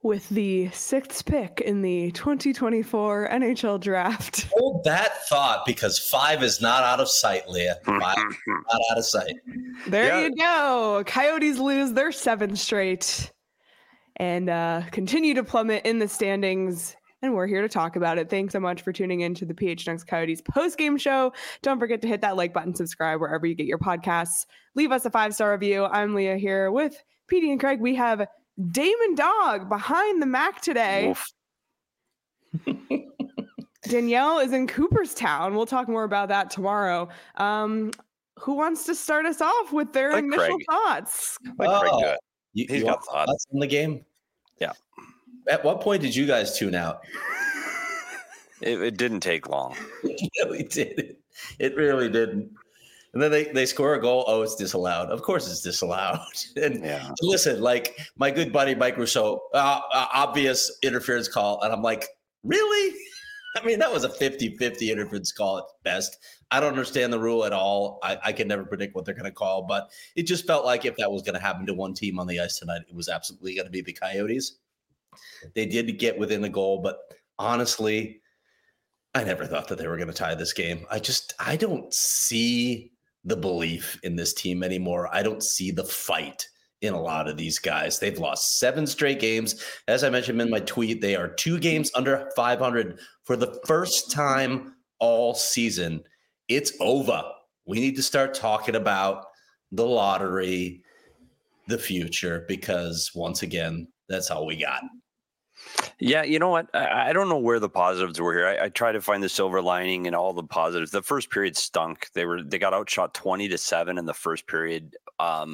with the sixth pick in the 2024 NHL draft. Hold that thought, because 5 is not out of sight, Leah. 5 is not out of sight. There you go. Coyotes lose their 7th straight and continue to plummet in the standings. And we're here to talk about it. Thanks so much for tuning in to the PHNX Coyotes post-game show. Don't forget to hit that like button, subscribe wherever you get your podcasts. Leave us a 5-star review. I'm Leah here with Petey and Craig. We have Damon Dog behind the Mac today. Danielle is in Cooperstown. We'll talk more about that tomorrow. Who wants to start us off with their initial thoughts? You got thoughts on the game? Yeah. At what point did you guys tune out? It didn't take long. It really did. It really didn't. And then they score a goal. Oh, it's disallowed. Of course it's disallowed. And listen, like my good buddy Mike Rousseau, obvious interference call. And I'm like, really? I mean, that was a 50-50 interference call at best. I don't understand the rule at all. I can never predict what they're going to call. But it just felt like if that was going to happen to one team on the ice tonight, it was absolutely going to be the Coyotes. They did get within the goal, but honestly, I never thought that they were going to tie this game. I don't see the belief in this team anymore. I don't see the fight in a lot of these guys. They've lost 7 straight games. As I mentioned in my tweet, they are 2 games under 500 for the first time all season. It's over. We need to start talking about the lottery, the future, because once again, that's all we got. Yeah, you know what? I don't know where the positives were here. I try to find the silver lining in all the positives. The first period stunk. They got outshot 20-7 in the first period. I'll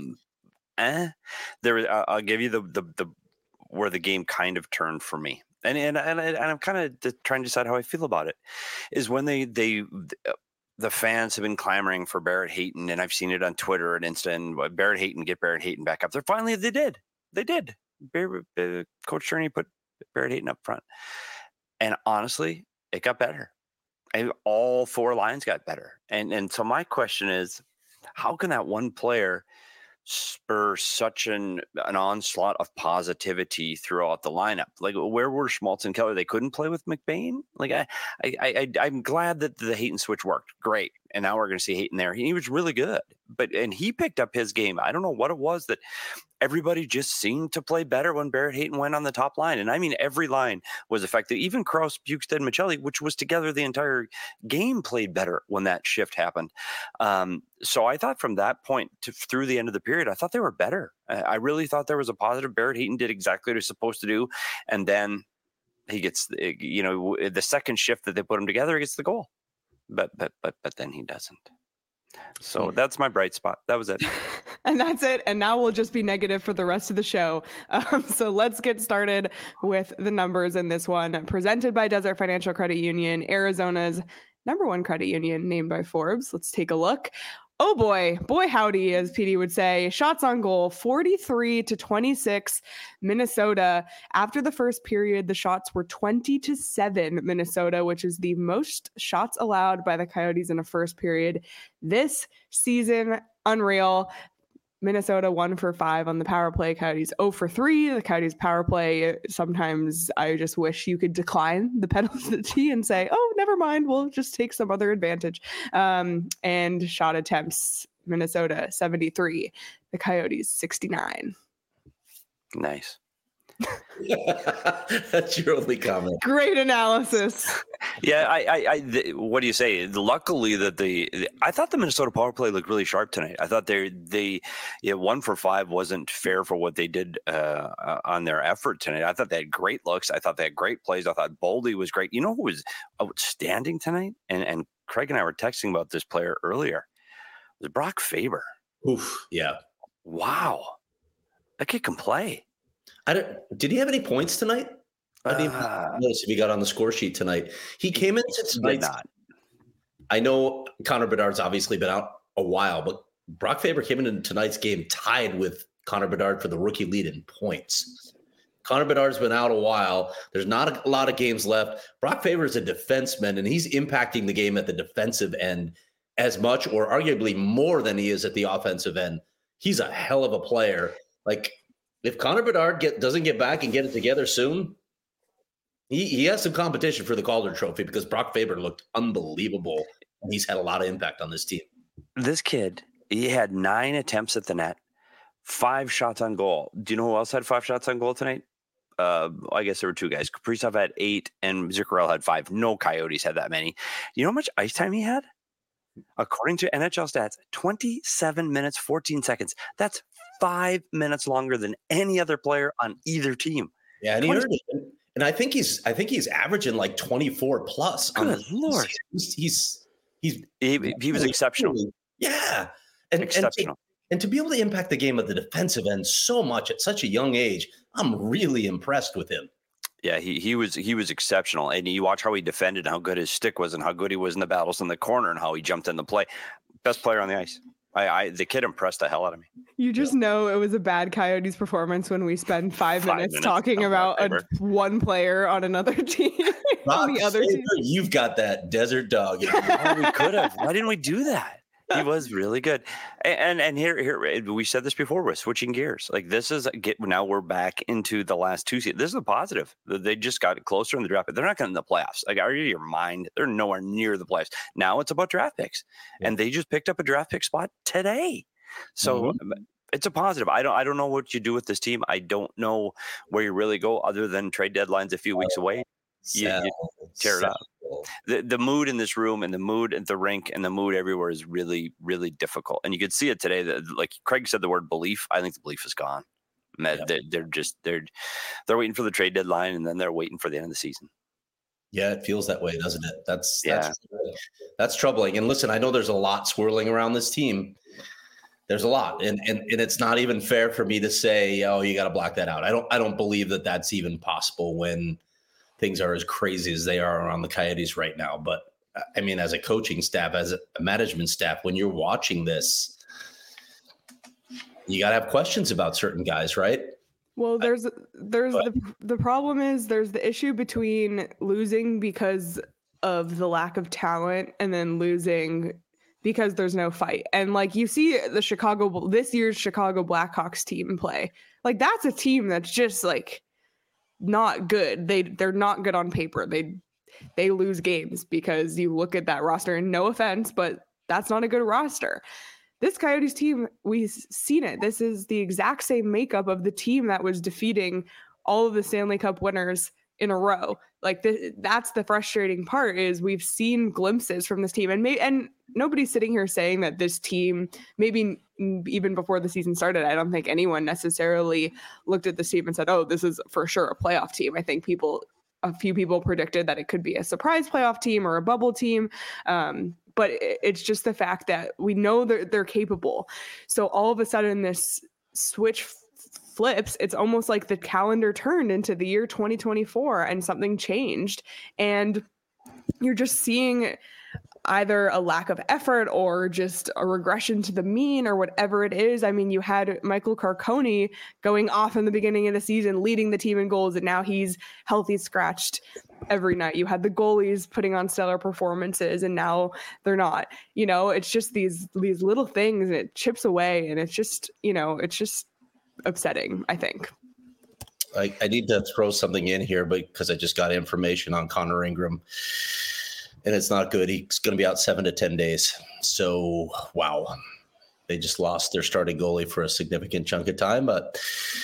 give you the where the game kind of turned for me, and I'm kind of trying to decide how I feel about it. Is when the fans have been clamoring for Barrett Hayton, and I've seen it on Twitter and Insta. And Barrett Hayton back up there. Finally, they did. Coach Turney put Barrett Hayton up front, and honestly, it got better. And all 4 lines got better. And so my question is, how can that one player spur such an onslaught of positivity throughout the lineup? Like, where were Schmaltz and Keller? They couldn't play with McBain. Like, I'm glad that the Hayton switch worked. Great. And now we're going to see Hayton there. He was really good, and he picked up his game. I don't know what it was that everybody just seemed to play better when Barrett Hayton went on the top line. And I mean, every line was effective. Even Krause, Bukestad, and Michelli, which was together the entire game, played better when that shift happened. So I thought from that point through the end of the period, I thought they were better. I really thought there was a positive. Barrett Hayton did exactly what he was supposed to do. And then he gets, the second shift that they put him together, he gets the goal. But then he doesn't. So that's my bright spot. That was it. And that's it. And now we'll just be negative for the rest of the show. So let's get started with the numbers in this one. Presented by Desert Financial Credit Union, Arizona's #1 credit union, named by Forbes. Let's take a look. Oh boy, howdy, as PD would say. Shots on goal, 43-26, Minnesota. After the first period, the shots were 20-7, Minnesota, which is the most shots allowed by the Coyotes in a first period this season. Unreal. Minnesota 1 for 5 on the power play. Coyotes 0 for 3. The Coyotes power play, sometimes I just wish you could decline the penalty and say, oh, never mind, we'll just take some other advantage. And shot attempts, Minnesota 73. The Coyotes 69. Nice. That's your only comment. Great analysis. Yeah, what do you say? Luckily, I thought the Minnesota power play looked really sharp tonight. I thought they 1 for 5 wasn't fair for what they did on their effort tonight. I thought they had great looks. I thought they had great plays. I thought Boldy was great. You know who was outstanding tonight? And Craig and I were texting about this player earlier. It was Brock Faber. Oof, yeah. Wow, that kid can play. Did he have any points tonight? I didn't even notice if he got on the score sheet tonight. He came into tonight. I know Connor Bedard's obviously been out a while, but Brock Faber came into tonight's game tied with Connor Bedard for the rookie lead in points. Connor Bedard's been out a while. There's not a lot of games left. Brock Faber is a defenseman, and he's impacting the game at the defensive end as much or arguably more than he is at the offensive end. He's a hell of a player. Like, if Connor Bedard doesn't get back and get it together soon, he has some competition for the Calder Trophy because Brock Faber looked unbelievable, and he's had a lot of impact on this team. This kid, he had 9 attempts at the net, 5 shots on goal. Do you know who else had 5 shots on goal tonight? I guess there were 2 guys. Kaprizov had 8 and Zuccarello had 5. No Coyotes had that many. You know how much ice time he had? According to NHL stats, 27 minutes, 14 seconds. That's 5 minutes longer than any other player on either team. Yeah, and he earned it. And I think he's averaging like 24 plus. Good Lord. He was exceptional. Yeah. Exceptional. And to be able to impact the game at the defensive end so much at such a young age, I'm really impressed with him. Yeah, he was exceptional. And you watch how he defended and how good his stick was and how good he was in the battles in the corner and how he jumped in the play. Best player on the ice. The kid impressed the hell out of me. You just know it was a bad Coyotes performance when we spend 5 minutes talking about one player on another team. On the other team. You've got that desert dog. We could have. Why didn't we do that? He was really good. And here we said this before, we're switching gears. Like now we're back into the last 2 seasons. This is a positive. They just got closer in the draft, but they're not getting in the playoffs. Like, are you out of your mind? They're nowhere near the playoffs. Now it's about draft picks. Yeah. And they just picked up a draft pick spot today. So it's a positive. I don't know what you do with this team. I don't know where you really go other than trade deadlines a few weeks away. You tear it up. The mood in this room and the mood at the rink and the mood everywhere is really, really difficult. And you could see it today. That, like Craig said, the word belief. I think the belief is gone. Yeah. They're waiting for the trade deadline and then they're waiting for the end of the season. Yeah, it feels that way, doesn't it? That's troubling. And listen, I know there's a lot swirling around this team. There's a lot, and it's not even fair for me to say, oh, you got to block that out. I don't believe that that's even possible when things are as crazy as they are around the Coyotes right now. But I mean, as a coaching staff, as a management staff, when you're watching this, you got to have questions about certain guys, right? Well, the problem is there's the issue between losing because of the lack of talent and then losing because there's no fight. And like you see this year's Chicago Blackhawks team play, like that's a team that's just like not good. They're not good on paper. They lose games because you look at that roster and no offense, but that's not a good roster. This Coyotes team, we've seen it. This is the exact same makeup of the team that was defeating all of the Stanley Cup winners in a row. Like that's the frustrating part is we've seen glimpses from this team, and nobody's sitting here saying that this team, maybe even before the season started, I don't think anyone necessarily looked at this team and said, oh, this is for sure a playoff team. I think a few people predicted that it could be a surprise playoff team or a bubble team. But it's just the fact that we know they're capable. So all of a sudden this switch flips. It's almost like the calendar turned into the year 2024 and something changed. And you're just seeing either a lack of effort or just a regression to the mean or whatever it is. I mean, you had Michael Carcone going off in the beginning of the season, leading the team in goals, and now he's healthy scratched every night. You had the goalies putting on stellar performances and now they're not. You know, it's just these little things, and it chips away, and it's just upsetting, I think. I need to throw something in here because I just got information on Connor Ingram. And it's not good. He's going to be out 7 to 10 days. So, wow. They just lost their starting goalie for a significant chunk of time, but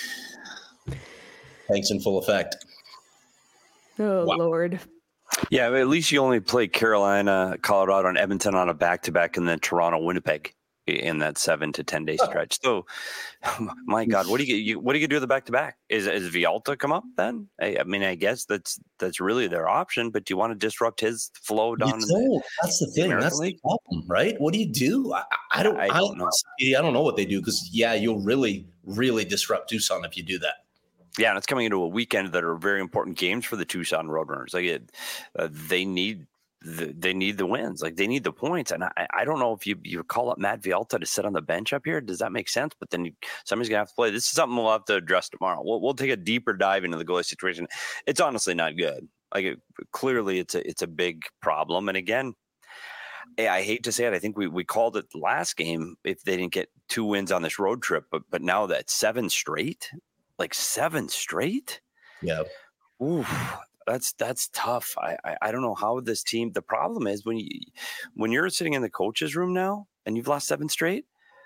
thanks in full effect. Oh, wow. Lord. Yeah, at least you only play Carolina, Colorado, and Edmonton on a back-to-back, and then Toronto, Winnipeg in that 7 to 10 day stretch. So, my God, what do you do with the back-to-back? Is Villalta come up then? I mean, I guess that's really their option, but do you want to disrupt his flow down? That's the thing. That's the problem, right? What do you do? I don't know. I don't know what they do because, you'll really, really disrupt Tucson if you do that. Yeah, and it's coming into a weekend that are very important games for the Tucson Roadrunners. Like they need the wins, like they need the points. And I don't know if you call up Matt Villalta to sit on the bench up here. Does that make sense? But then somebody's gonna have to play. This is something we'll have to address tomorrow. We'll take a deeper dive into the goalie situation. It's honestly not good. Like clearly it's a big problem. And again, I hate to say it. I think we called it last game if they didn't get 2 wins on this road trip, but now that's 7 straight. like 7 straight. Yeah. Ooh, that's tough. I don't know how this team. The problem is when you're sitting in the coach's room now and you've lost 7 straight.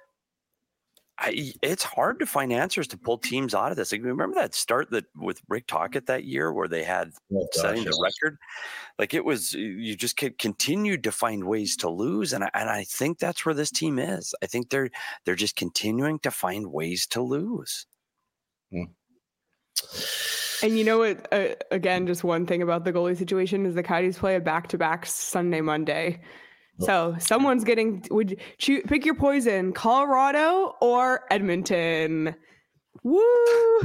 It's hard to find answers to pull teams out of this. Like, remember that start with Rick Tocchet that year where they had setting the record? Like, it was, you just continued to find ways to lose, and I think that's where this team is. I think they're just continuing to find ways to lose. And you know what? Again, just one thing about the goalie situation is the Coyotes play a back-to-back Sunday, Monday. So someone's getting. Would you pick your poison? Colorado or Edmonton? Woo!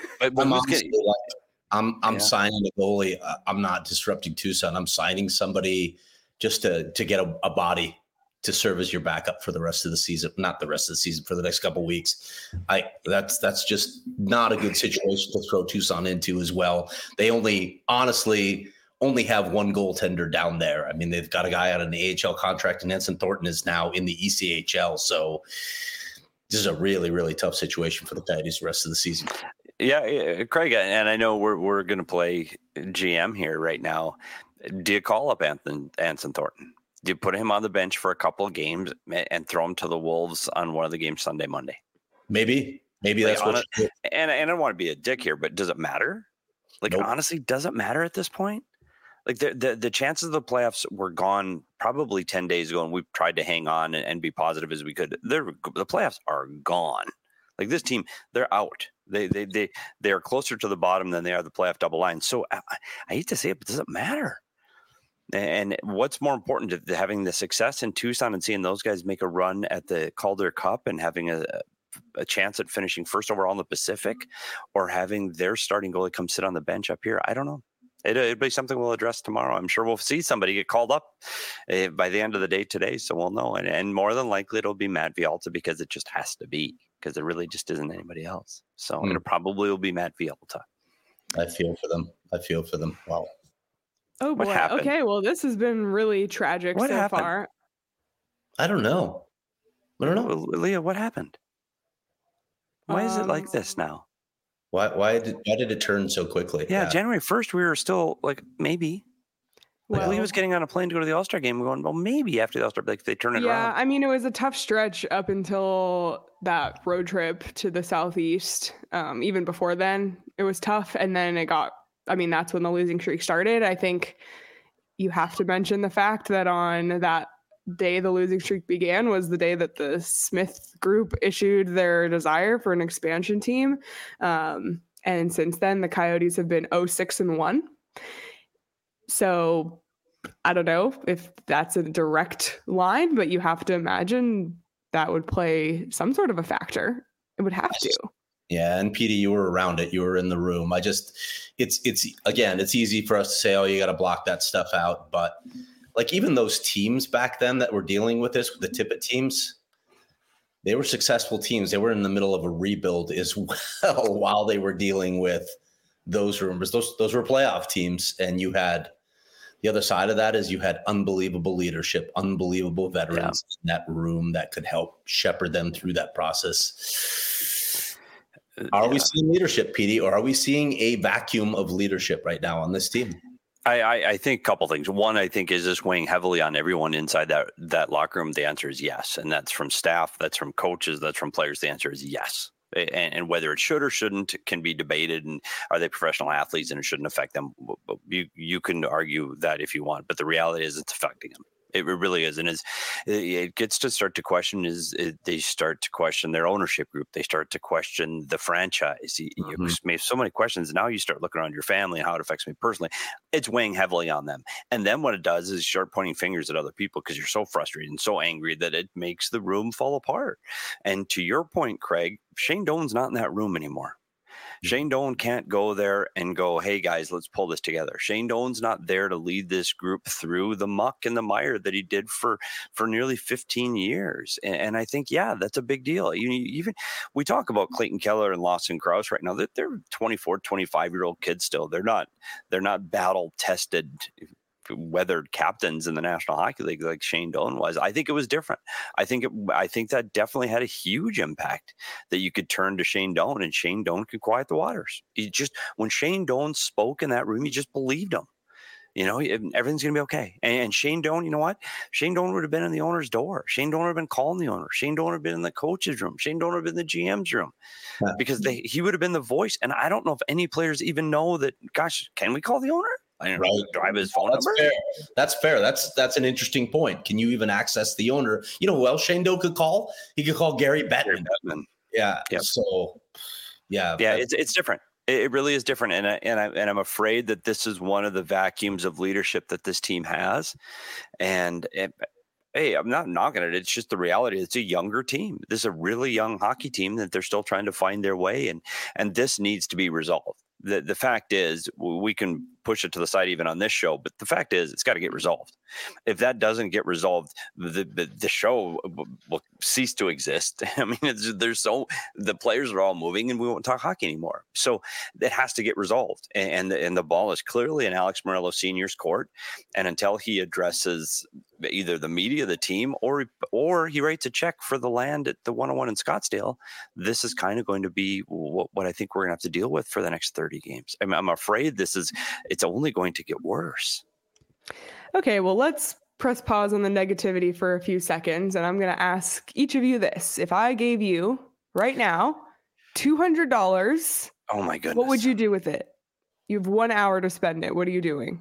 I'm signing a goalie. I'm not disrupting Tucson. I'm signing somebody just to get a body to serve as your backup for the rest of the season. Not the rest of the season, for the next couple of weeks. That's just not a good situation to throw Tucson into as well. They honestly only have one goaltender down there. I mean, they've got a guy on an AHL contract, and Anson Thornton is now in the ECHL. So this is a really, really tough situation for the Coyotes the rest of the season. Yeah, Craig, and I know we're going to play GM here right now. Do you call up Anson Thornton? Do you put him on the bench for a couple of games and throw him to the Wolves on one of the games Sunday, Monday? Maybe that's what you do. And I don't want to be a dick here, but does it matter? Like, nope. Honestly, does it matter at this point? Like, the chances of the playoffs were gone probably 10 days ago, and we've tried to hang on and be positive as we could. The playoffs are gone. Like, this team, they're out. They are closer to the bottom than they are the playoff double line. So I hate to say it, but does it matter? And what's more important to having the success in Tucson and seeing those guys make a run at the Calder Cup and having a chance at finishing first overall in the Pacific, or having their starting goalie come sit on the bench up here? I don't know. It'll be something we'll address tomorrow. I'm sure we'll see somebody get called up by the end of the day today, so we'll know. And more than likely, it'll be Matt Villalta, because it just has to be, because there really just isn't anybody else. So it probably will be Matt Villalta. I feel for them. Wow. Oh, boy. Okay, well, this has been really tragic so far. I don't know. Leah, what happened? Why is it like this now? Why did it turn so quickly? Yeah, January 1st, we were still like, maybe. Well, he was getting on a plane to go to the All-Star game. We're going, well, maybe after the All-Star, like, they turn it around. Yeah, I mean, it was a tough stretch up until that road trip to the Southeast. Even before then, it was tough. And then that's when the losing streak started. I think you have to mention the fact that on that day the losing streak began was the day that the Smith Group issued their desire for an expansion team. And since then, the Coyotes have been 0-6-1. So I don't know if that's a direct line, but you have to imagine that would play some sort of a factor. It would have to. Yeah. And Petey, you were around it. You were in the room. It's easy for us to say, oh, you got to block that stuff out. But like, even those teams back then that were dealing with this, the Tippett teams, they were successful teams. They were in the middle of a rebuild as well while they were dealing with those rumors. Those were playoff teams. And you had the other side of that is you had unbelievable leadership, unbelievable veterans in that room that could help shepherd them through that process. Are we seeing leadership, Petey, or are we seeing a vacuum of leadership right now on this team? I think a couple things. One, I think, is this weighing heavily on everyone inside that locker room? The answer is yes. And that's from staff, that's from coaches, that's from players. The answer is yes. And whether it should or shouldn't can be debated. And are they professional athletes and it shouldn't affect them? You can argue that if you want, but the reality is it's affecting them. It really is. And it gets to start to question they start to question their ownership group. They start to question the franchise. You made so many questions. Now you start looking around your family and how it affects me personally. It's weighing heavily on them. And then what it does is you start pointing fingers at other people because you're so frustrated and so angry that it makes the room fall apart. And to your point, Craig, Shane Doan's not in that room anymore. Shane Doan can't go there and go, hey, guys, let's pull this together. Shane Doan's not there to lead this group through the muck and the mire that he did for nearly 15 years. And I think, that's a big deal. Even we talk about Clayton Keller and Lawson Crouse right now. They're 24, 25-year-old kids still. They're not battle-tested weathered captains in the National Hockey League like Shane Doan was. I think it was different. I think that definitely had a huge impact that you could turn to Shane Doan, and Shane Doan could quiet the waters. When Shane Doan spoke in that room, you just believed him. Everything's going to be okay. And Shane Doan, you know what? Shane Doan would have been in the owner's door. Shane Doan would have been calling the owner. Shane Doan would have been in the coach's room. Shane Doan would have been in the GM's room, because he would have been the voice. And I don't know if any players even know that, gosh, can we call the owner? I don't know, drive his phone number. Fair. That's fair. That's an interesting point. Can you even access the owner? You know who else Shane Doan could call? He could call Gary Bettman. Yeah. Yep. So, yeah. Yeah, it's different. It really is different, and I'm afraid that this is one of the vacuums of leadership that this team has. And hey, I'm not knocking it. It's just the reality. It's a younger team. This is a really young hockey team that they're still trying to find their way, and this needs to be resolved. The fact is, we can push it to the side even on this show, but the fact is, it's got to get resolved. If that doesn't get resolved, the show will cease to exist. I mean, the players are all moving, and we won't talk hockey anymore. So it has to get resolved, and the ball is clearly in Alex Morelos Sr.'s court. And until he addresses either the media, the team, or he writes a check for the land at the 101 in Scottsdale, this is kind of going to be what I think we're going to have to deal with for the next 30 games. I'm afraid it's only going to get worse. Okay, well, let's press pause on the negativity for a few seconds, and I'm going to ask each of you this. If I gave you right now $200, oh my goodness, what would you do with it? You have 1 hour to spend it. What are you doing?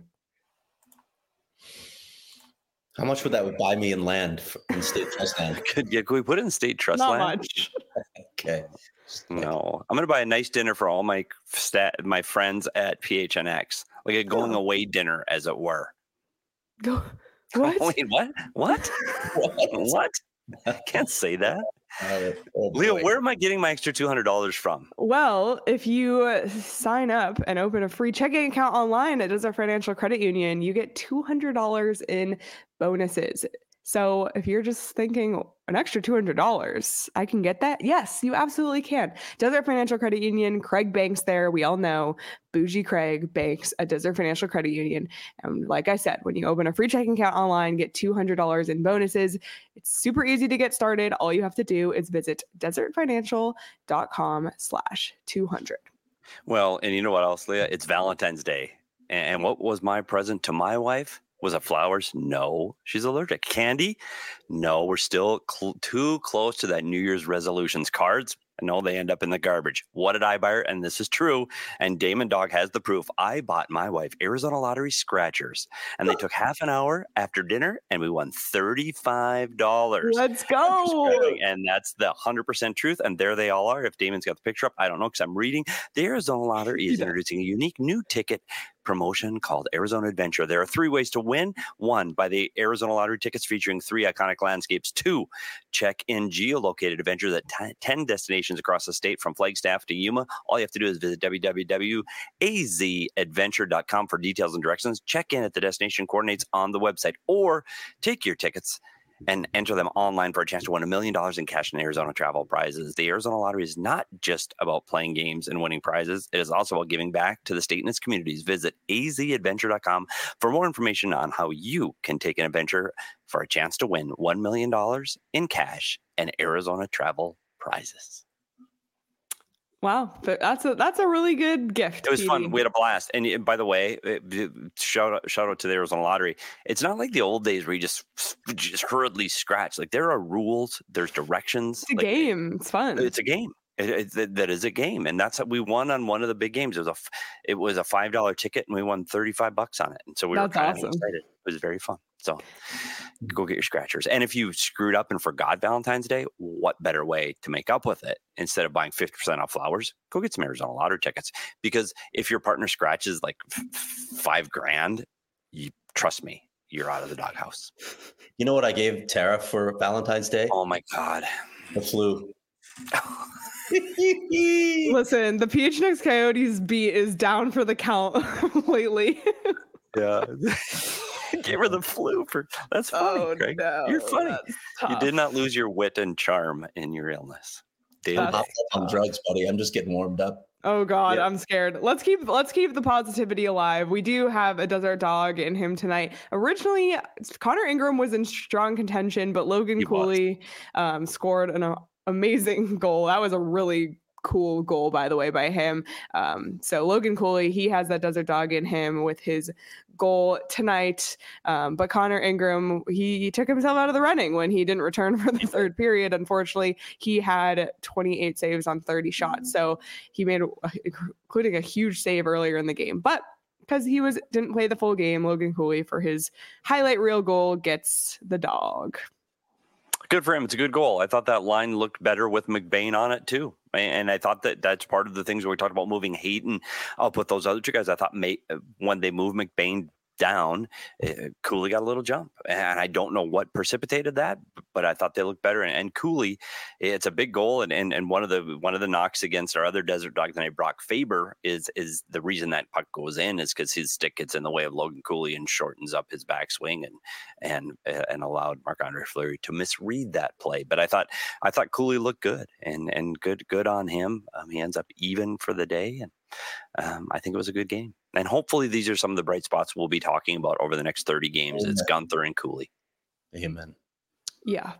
How much would that buy me in land in state trust land? Could we put it in state trust Not land? Much. Okay. No, I'm going to buy a nice dinner for all my friends at PHNX, like a going away dinner, as it were. What? Wait, what? What? What? I can't say that. Leo, where am I getting my extra $200 from? Well, if you sign up and open a free checking account online at Desert Financial Credit Union, you get $200 in bonuses. So if you're just thinking an extra $200, I can get that? Yes, you absolutely can. Desert Financial Credit Union, Craig banks there. We all know Bougie Craig banks at Desert Financial Credit Union. And like I said, when you open a free checking account online, get $200 in bonuses. It's super easy to get started. All you have to do is visit desertfinancial.com/200. Well, and you know what else, Leah? It's Valentine's Day. And what was my present to my wife? Was it flowers? No. She's allergic. Candy? No. We're still too close to that New Year's resolutions. Cards? No, they end up in the garbage. What did I buy her? And this is true. And Damon Dog has the proof. I bought my wife Arizona Lottery scratchers. And they took half an hour after dinner, and we won $35. Let's go. And that's the 100% truth. And there they all are. If Damon's got the picture up, I don't know, because I'm reading. The Arizona Lottery is introducing a unique new ticket promotion called Arizona Adventure. There are 3 ways to win. 1, buy the Arizona Lottery tickets featuring 3 iconic landscapes. 2, check in geolocated adventures at 10 destinations across the state from Flagstaff to Yuma. All you have to do is visit www.azadventure.com for details and directions. Check in at the destination coordinates on the website, or take your tickets and enter them online for a chance to win $1 million in cash and Arizona travel prizes. The Arizona Lottery is not just about playing games and winning prizes. It is also about giving back to the state and its communities. Visit azadventure.com for more information on how you can take an adventure for a chance to win $1 million in cash and Arizona travel prizes. Wow, that's a really good gift. It was Petey. fun. We had a blast. And by the way, shout out to the Arizona Lottery. It's not like the old days where you just hurriedly scratch. Like, there are rules, there's directions. It's a game. It's fun. It's a game. That is a game, and that's what we won on one of the big games. It was a $5 ticket, and we won $35 on it. And so we were kind of excited. It was very fun. So go get your scratchers. And if you screwed up and forgot Valentine's Day, what better way to make up with it? Instead of buying 50% off flowers, go get some Arizona Lottery tickets. Because if your partner scratches like $5,000, trust me, you're out of the doghouse. You know what I gave Tara for Valentine's Day? Oh my God. The flu. Listen, the PHNX Coyotes beat is down for the count lately. Yeah. Gave her the flu for that's funny, Craig. No, you're funny. You did not lose your wit and charm in your illness. I'm on drugs, buddy. I'm just getting warmed up. Oh God, I'm scared. Let's keep the positivity alive. We do have a desert dog in him tonight. Originally, Connor Ingram was in strong contention, but Logan Cooley scored an amazing goal. That was a really cool goal, by the way, by him. So Logan Cooley, he has that desert dog in him with his goal tonight. But Connor Ingram, he took himself out of the running when he didn't return for the third period. Unfortunately, he had 28 saves on 30 shots. So he made, including a huge save earlier in the game. But because he didn't play the full game, Logan Cooley, for his highlight reel goal, gets the dog. Good for him. It's a good goal. I thought that line looked better with McBain on it too. And I thought that's part of the things where we talked about moving Hayton up with those other two guys. I thought when they moved McBain down, Cooley got a little jump, and I don't know what precipitated that, but I thought they looked better. And Cooley, it's a big goal, and one of the knocks against our other desert dog tonight, Brock Faber, is the reason that puck goes in is because his stick gets in the way of Logan Cooley and shortens up his backswing and allowed Marc-Andre Fleury to misread that play. But I thought Cooley looked good and good on him. He ends up even for the day, and I think it was a good game. And hopefully these are some of the bright spots we'll be talking about over the next 30 games. Amen. It's Gunther and Cooley. Amen. Yeah.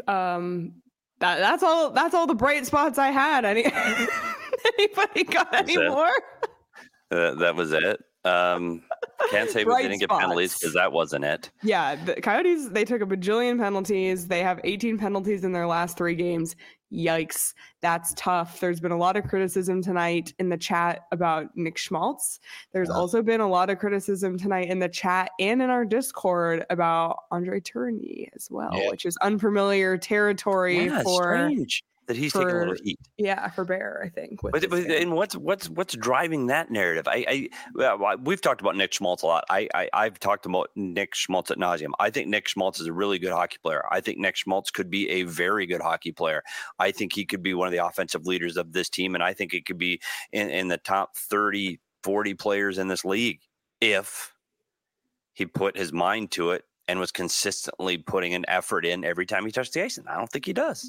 That's all the bright spots I had. Anybody got any more? That was it. Can't say we didn't get penalties because that wasn't it. Yeah, the Coyotes, they took a bajillion penalties. They have 18 penalties in their last 3 games. Yikes, that's tough. There's been a lot of criticism tonight in the chat about Nick Schmaltz. There's also been a lot of criticism tonight in the chat and in our Discord about Andre Tourigny as well, which is unformiliar territory for... Strange that he's taking a little heat. Yeah, for Bear, I think. And what's driving that narrative? We've talked about Nick Schmaltz a lot. I've talked about Nick Schmaltz ad nauseum. I think Nick Schmaltz is a really good hockey player. I think Nick Schmaltz could be a very good hockey player. I think he could be one of the offensive leaders of this team, and I think it could be in the top 30, 40 players in this league if he put his mind to it and was consistently putting an effort in every time he touched the ice. And I don't think he does.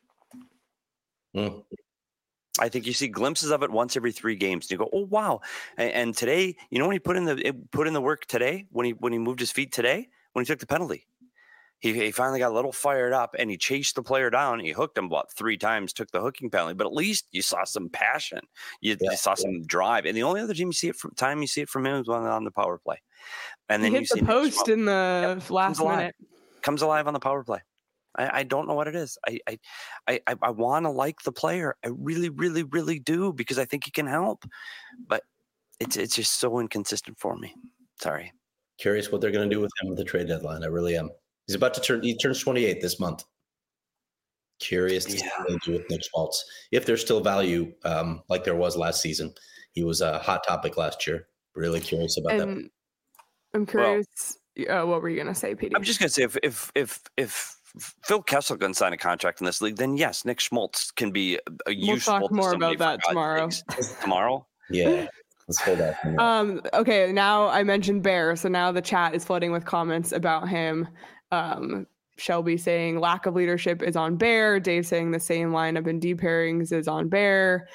I think you see glimpses of it once every 3 games. And you go, oh wow! And today, when he put in the work today, when he moved his feet today, when he took the penalty, he finally got a little fired up and he chased the player down. He hooked him about 3 times, took the hooking penalty. But at least you saw some passion. You saw some drive. And the only other team you see it from him is on the power play. And then he hit the post in the last minute. Comes alive on the power play. I don't know what it is. I want to like the player. I really, really, really do, because I think he can help. But it's just so inconsistent for me. Sorry. Curious what they're going to do with him at the trade deadline. I really am. He turns 28 this month. Curious to see what they do with Nick Schmaltz. If there's still value, like there was last season. He was a hot topic last year. Really curious about that. I'm curious. What were you going to say, Petey? I'm just going to say if Phil Kessel can sign a contract in this league, then yes, Nick Schmaltz can be useful. We'll talk more about that tomorrow. Tomorrow? Yeah. Let's hold that. Okay, now I mentioned Bear, so now the chat is flooding with comments about him. Shelby saying lack of leadership is on Bear. Dave saying the same lineup in deep pairings is on Bear.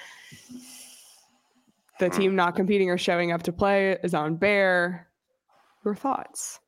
The team not competing or showing up to play is on Bear. Your thoughts?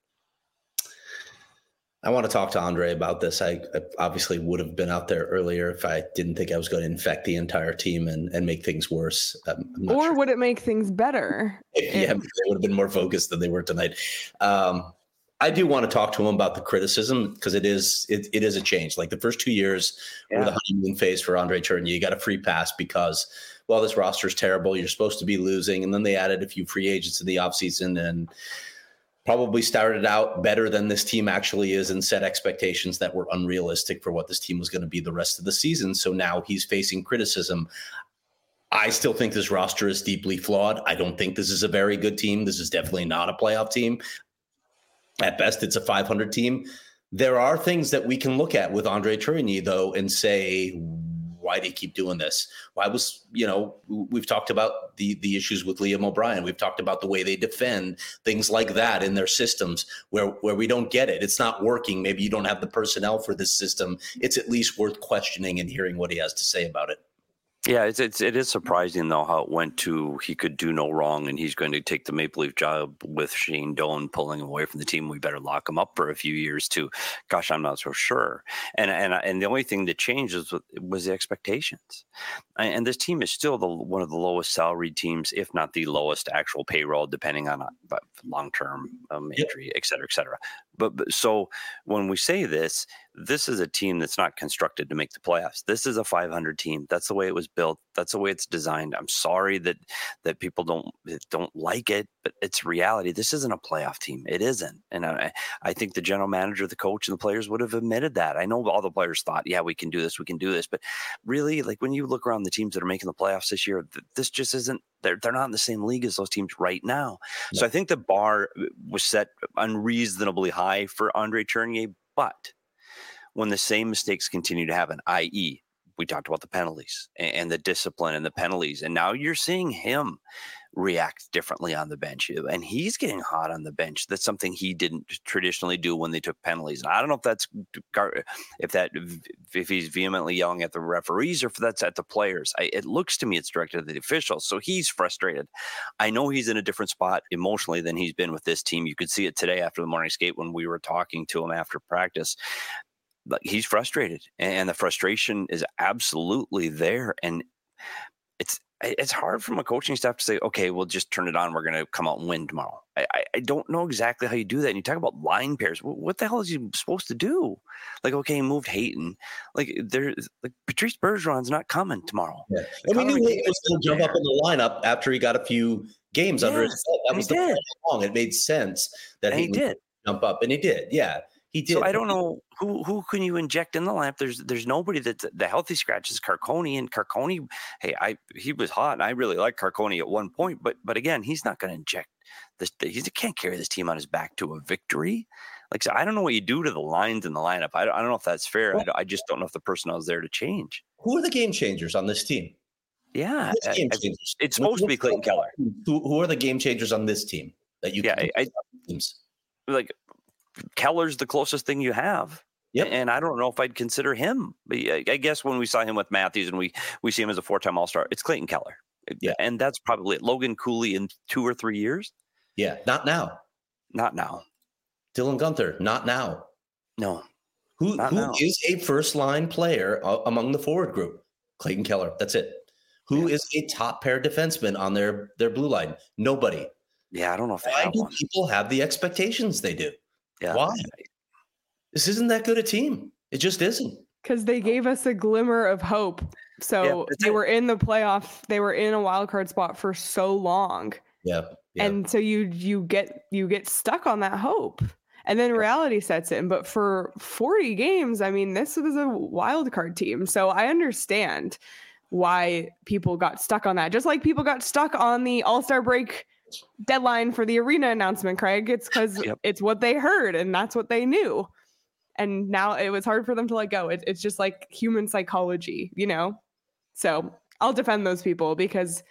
I want to talk to Andre about this. I obviously would have been out there earlier if I didn't think I was going to infect the entire team and make things worse. Or sure. Would it make things better? Yeah, they would have been more focused than they were tonight. I do want to talk to him about the criticism, because it is a change. Like the first 2 years were the honeymoon phase for Andre Tourigny. You got a free pass because, well, this roster is terrible. You're supposed to be losing. And then they added a few free agents in the offseason and probably started out better than this team actually is and set expectations that were unrealistic for what this team was going to be the rest of the season. So now he's facing criticism. I still think this roster is deeply flawed. I don't think this is a very good team. This is definitely not a playoff team. At best, it's a 500 team. There are things that we can look at with Andre Tourigny, though, and say, why do you keep doing this? Why was, we've talked about the issues with Liam O'Brien. We've talked about the way they defend, things like that in their systems where we don't get it. It's not working. Maybe you don't have the personnel for this system. It's at least worth questioning and hearing what he has to say about it. Yeah, it is surprising though how it went to he could do no wrong and he's going to take the Maple Leaf job with Shane Doan pulling him away from the team. We better lock him up for a few years too. Gosh, I'm not so sure. And the only thing that changed was the expectations. And this team is still one of the lowest salaried teams, if not the lowest actual payroll, depending on long-term injury, et cetera, et cetera. But so when we say this is a team that's not constructed to make the playoffs. This is a 500 team. That's the way it was built. That's the way it's designed. I'm sorry that people don't like it, but it's reality. This isn't a playoff team. It isn't. And I think the general manager, the coach, and the players would have admitted that. I know all the players thought, yeah, we can do this. But really, like when you look around the teams that are making the playoffs this year, this just isn't. They're not in the same league as those teams right now. Yeah. So I think the bar was set unreasonably high for Andre Tourigny, but when the same mistakes continue to happen, i.e., we talked about the penalties and the discipline and the penalties, and now you're seeing him react differently on the bench, and he's getting hot on the bench. That's something he didn't traditionally do when they took penalties. And I don't know if he's vehemently yelling at the referees or if that's at the players. It looks to me it's directed at the officials, so he's frustrated. I know he's in a different spot emotionally than he's been with this team. You could see it today after the morning skate when we were talking to him after practice. Like he's frustrated, and the frustration is absolutely there. And it's hard from a coaching staff to say, okay, we'll just turn it on. We're going to come out and win tomorrow. I don't know exactly how you do that. And you talk about line pairs. What the hell is he supposed to do? Like, okay, he moved Hayton. Like Patrice Bergeron's not coming tomorrow. Yeah. And we knew Hayton was going to jump up in the lineup after he got a few games under his belt. That was the plan all along. It made sense that Hayton would jump up, and he did. Yeah. He did. So I don't know who can you inject in the lineup. There's nobody that's the healthy scratch is Carcone, and Carcone. Hey, he was hot, and I really liked Carcone at one point, but again, he's not going to inject this. He can't carry this team on his back to a victory. Like, so I don't know what you do to the lines in the lineup. I don't know if that's fair. I just don't know if the personnel is there to change. Who are the game changers on this team? Yeah, it's supposed to be Clayton Keller. Who are the game changers on this team that you? Yeah, teams like. Keller's the closest thing you have. Yep. And I don't know if I'd consider him. But I guess when we saw him with Matthews and we see him as a 4-time All-Star, it's Clayton Keller. Yeah. And that's probably it. Logan Cooley in 2 or 3 years. Yeah. Not now. Not now. Dylan Guenther. Not now. No. Who is a first-line player among the forward group? Clayton Keller. That's it. Who is a top pair defenseman on their blue line? Nobody. Yeah, I don't know if Why do people have the expectations they do? Yeah. Why? This isn't that good a team. It just isn't. Because they gave us a glimmer of hope. So they were in the playoff. They were in a wild card spot for so long. Yeah. And so you get stuck on that hope. And then reality sets in. But for 40 games, I mean, this was a wild card team. So I understand why people got stuck on that. Just like people got stuck on the All-Star break deadline for the arena announcement, Craig. It's because it's what they heard and that's what they knew. And now it was hard for them to let go. It's just like human psychology, you know? So I'll defend those people because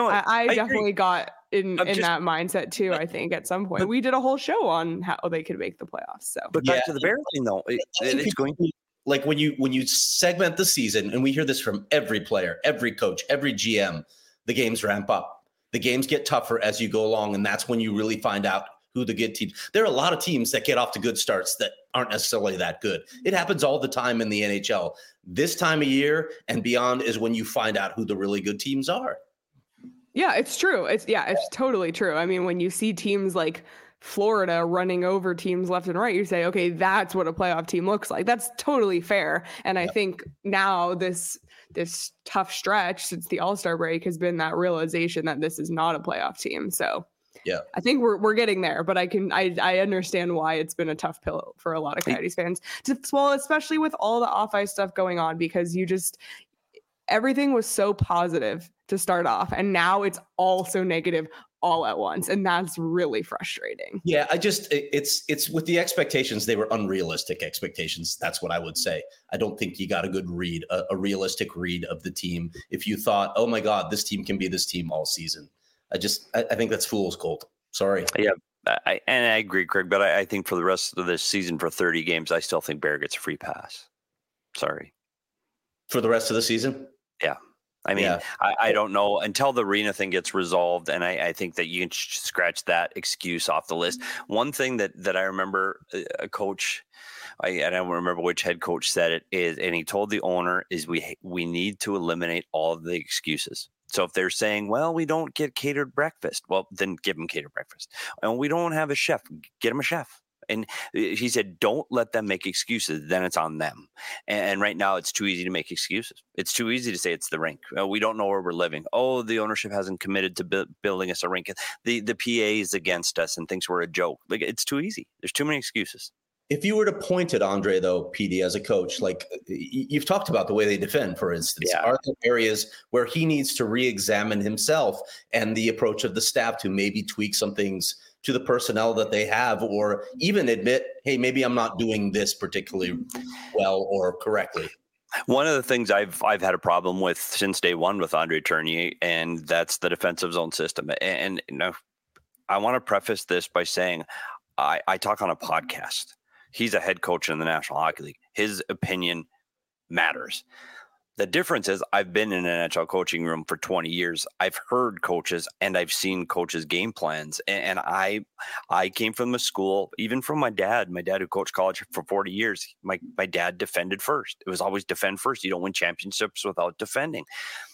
I definitely got in that mindset too, I think, at some point. We did a whole show on how they could make the playoffs. So, but back to the Bears thing though, it's going to like when you segment the season, and we hear this from every player, every coach, every GM, the games ramp up. The games get tougher as you go along, and that's when you really find out who the good teams. There are a lot of teams that get off to good starts that aren't necessarily that good. It happens all the time in the NHL. This time of year and beyond is when you find out who the really good teams are. Yeah, it's true. It's totally true. I mean, when you see teams like Florida running over teams left and right, you say, okay, that's what a playoff team looks like. That's totally fair. And I think now this tough stretch since the All-Star break has been that realization that this is not a playoff team. So yeah, I think we're getting there, but I understand why it's been a tough pill for a lot of Coyotes fans to swallow, especially with all the off-ice stuff going on, because everything was so positive to start off, and now it's all so negative all at once, and that's really frustrating. Yeah, it's with the expectations, they were unrealistic expectations. That's what I would say. I don't think you got a good read, a realistic read of the team if you thought, oh my God, this team can be this team all season. I think that's fool's gold. Sorry. Yeah, I agree, Craig, but I think for the rest of this season, for 30 games, I still think Bear gets a free pass. Sorry. For the rest of the season? Yeah. I mean, I don't know until the arena thing gets resolved. And I think that you can scratch that excuse off the list. One thing that I remember a coach, I don't remember which head coach said it is, and he told the owner is we need to eliminate all of the excuses. So if they're saying, well, we don't get catered breakfast, well, then give them catered breakfast. And we don't have a chef, get them a chef. And he said, don't let them make excuses. Then it's on them. And right now it's too easy to make excuses. It's too easy to say it's the rink. We don't know where we're living. Oh, the ownership hasn't committed to building us a rink. The PA is against us and thinks we're a joke. Like, it's too easy. There's too many excuses. If you were to point at Andre, though, PD, as a coach, like you've talked about the way they defend, for instance, are there areas where he needs to re-examine himself and the approach of the staff to maybe tweak some things to the personnel that they have, or even admit, hey, maybe I'm not doing this particularly well or correctly? One of the things I've had a problem with since day one with Andre Tourigny, and that's the defensive zone system. And you know, I want to preface this by saying I talk on a podcast. He's a head coach in the National Hockey League. His opinion matters. The difference is I've been in an NHL coaching room for 20 years. I've heard coaches and I've seen coaches' game plans. And I came from the school, even from my dad who coached college for 40 years. My dad defended first. It was always defend first. You don't win championships without defending.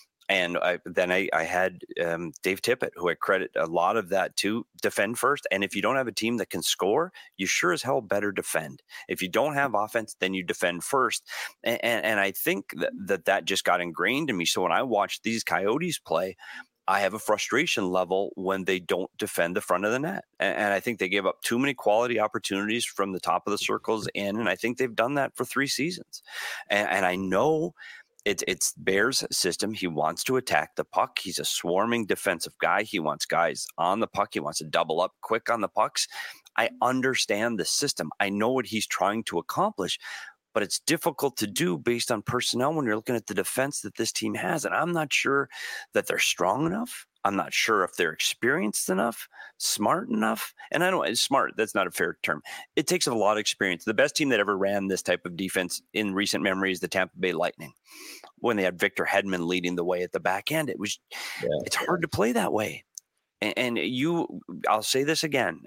And I had Dave Tippett, who I credit a lot of that to, defend first. And if you don't have a team that can score, you sure as hell better defend. If you don't have offense, then you defend first. And I think that just got ingrained in me. So when I watch these Coyotes play, I have a frustration level when they don't defend the front of the net. And I think they gave up too many quality opportunities from the top of the circles in. And I think they've done that for 3 seasons. And I know it's Bear's system. He wants to attack the puck. He's a swarming defensive guy. He wants guys on the puck. He wants to double up quick on the pucks. I understand the system. I know what he's trying to accomplish, but it's difficult to do based on personnel when you're looking at the defense that this team has. And I'm not sure that they're strong enough. I'm not sure if they're experienced enough, smart enough. And I don't, smart, that's not a fair term. It takes a lot of experience. The best team that ever ran this type of defense in recent memory is the Tampa Bay Lightning, when they had Victor Hedman leading the way at the back end. It's hard to play that way. And I'll say this again,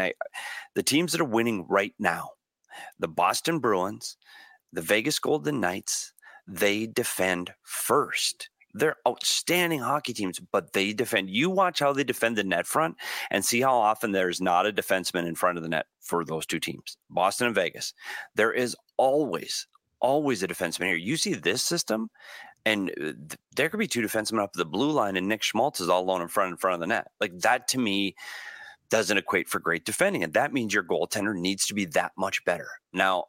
the teams that are winning right now, the Boston Bruins, the Vegas Golden Knights, they defend first. They're outstanding hockey teams, but they defend. You watch how they defend the net front and see how often there's not a defenseman in front of the net for those two teams, Boston and Vegas. There is always a defenseman here. You see this system, and there could be 2 defensemen up the blue line, and Nick Schmaltz is all alone in front of the net. Like, that to me doesn't equate for great defending, and that means your goaltender needs to be that much better. Now,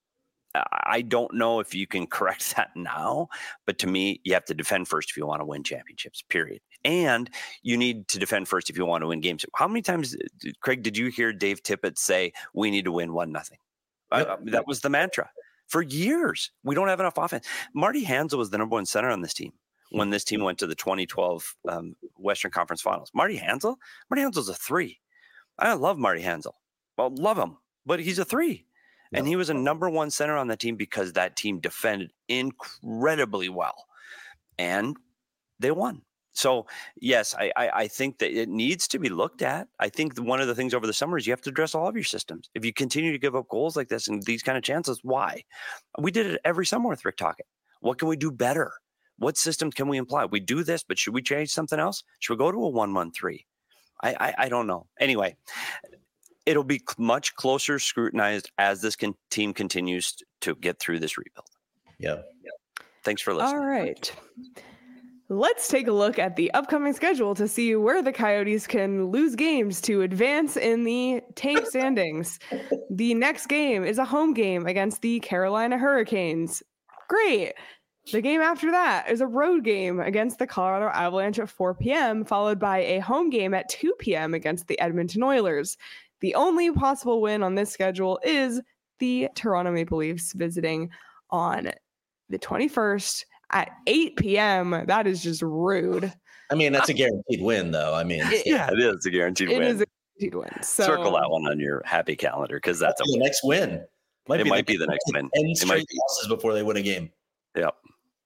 I don't know if you can correct that now, but to me, you have to defend first if you want to win championships, period. And you need to defend first if you want to win games. How many times, Craig, did you hear Dave Tippett say, we need to win 1-0? That was the mantra. For years, we don't have enough offense. Marty Hanzal was the number 1 center on this team when this team went to the 2012 Western Conference Finals. Marty Hanzal's a 3. I love Marty Hanzal. Well, love him, but he's a 3. And he was a number 1 center on the team because that team defended incredibly well. And they won. So, yes, I think that it needs to be looked at. I think one of the things over the summer is you have to address all of your systems. If you continue to give up goals like this and these kind of chances, why? We did it every summer with Rick Tocchet. What can we do better? What system can we imply? We do this, but should we change something else? Should we go to a 1-1-3? I don't know. Anyway, it'll be much closer scrutinized as this team continues to get through this rebuild. Yeah. Thanks for listening. All right. Let's take a look at the upcoming schedule to see where the Coyotes can lose games to advance in the tank standings. The next game is a home game against the Carolina Hurricanes. Great. The game after that is a road game against the Colorado Avalanche at 4 p.m., followed by a home game at 2 p.m. against the Edmonton Oilers. The only possible win on this schedule is the Toronto Maple Leafs visiting on the 21st at 8 p.m. That is just rude. I mean, that's a guaranteed win, though. I mean, it is a guaranteed win. It is a guaranteed win. So, circle that one on your happy calendar because that's the next win. It might be the next win. 10 straight losses before they win a game. Yep.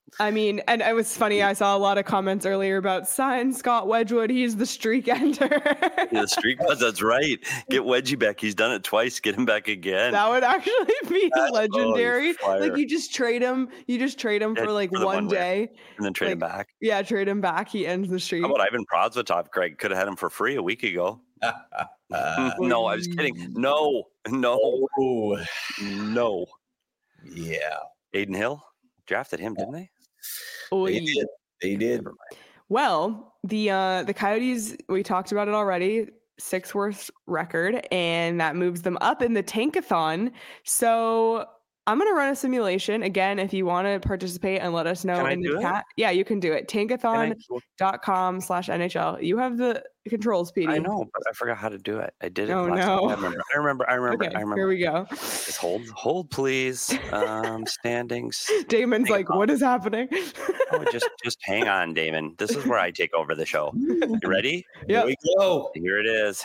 I mean, and it was funny. I saw a lot of comments earlier about sign Scott Wedgwood. He's the streak ender. The streak, that's right. Get Wedgie back. He's done it twice. Get him back again. That would actually be legendary. Like you just trade him. For like for one day, and then trade him back. Yeah, trade him back. He ends the streak. How about Ivan Prosvetov? Greg could have had him for free a week ago. No, I was kidding. No. Yeah. Aiden Hill drafted him, didn't they? They did. Well, the Coyotes, we talked about it already, 6th worst record, and that moves them up in the Tankathon. So I'm going to run a simulation. Again, if you want to participate and let us know in the chat. Yeah, you can do it. Tankathon.com/NHL. You have the controls, PD. I know, but I forgot how to do it. I did it last time. I remember. Okay, here we go. Just hold, please. Standings. Damon's like, what is happening? Just hang on, Damon. This is where I take over the show. You ready? Yeah. Here we go. Here it is.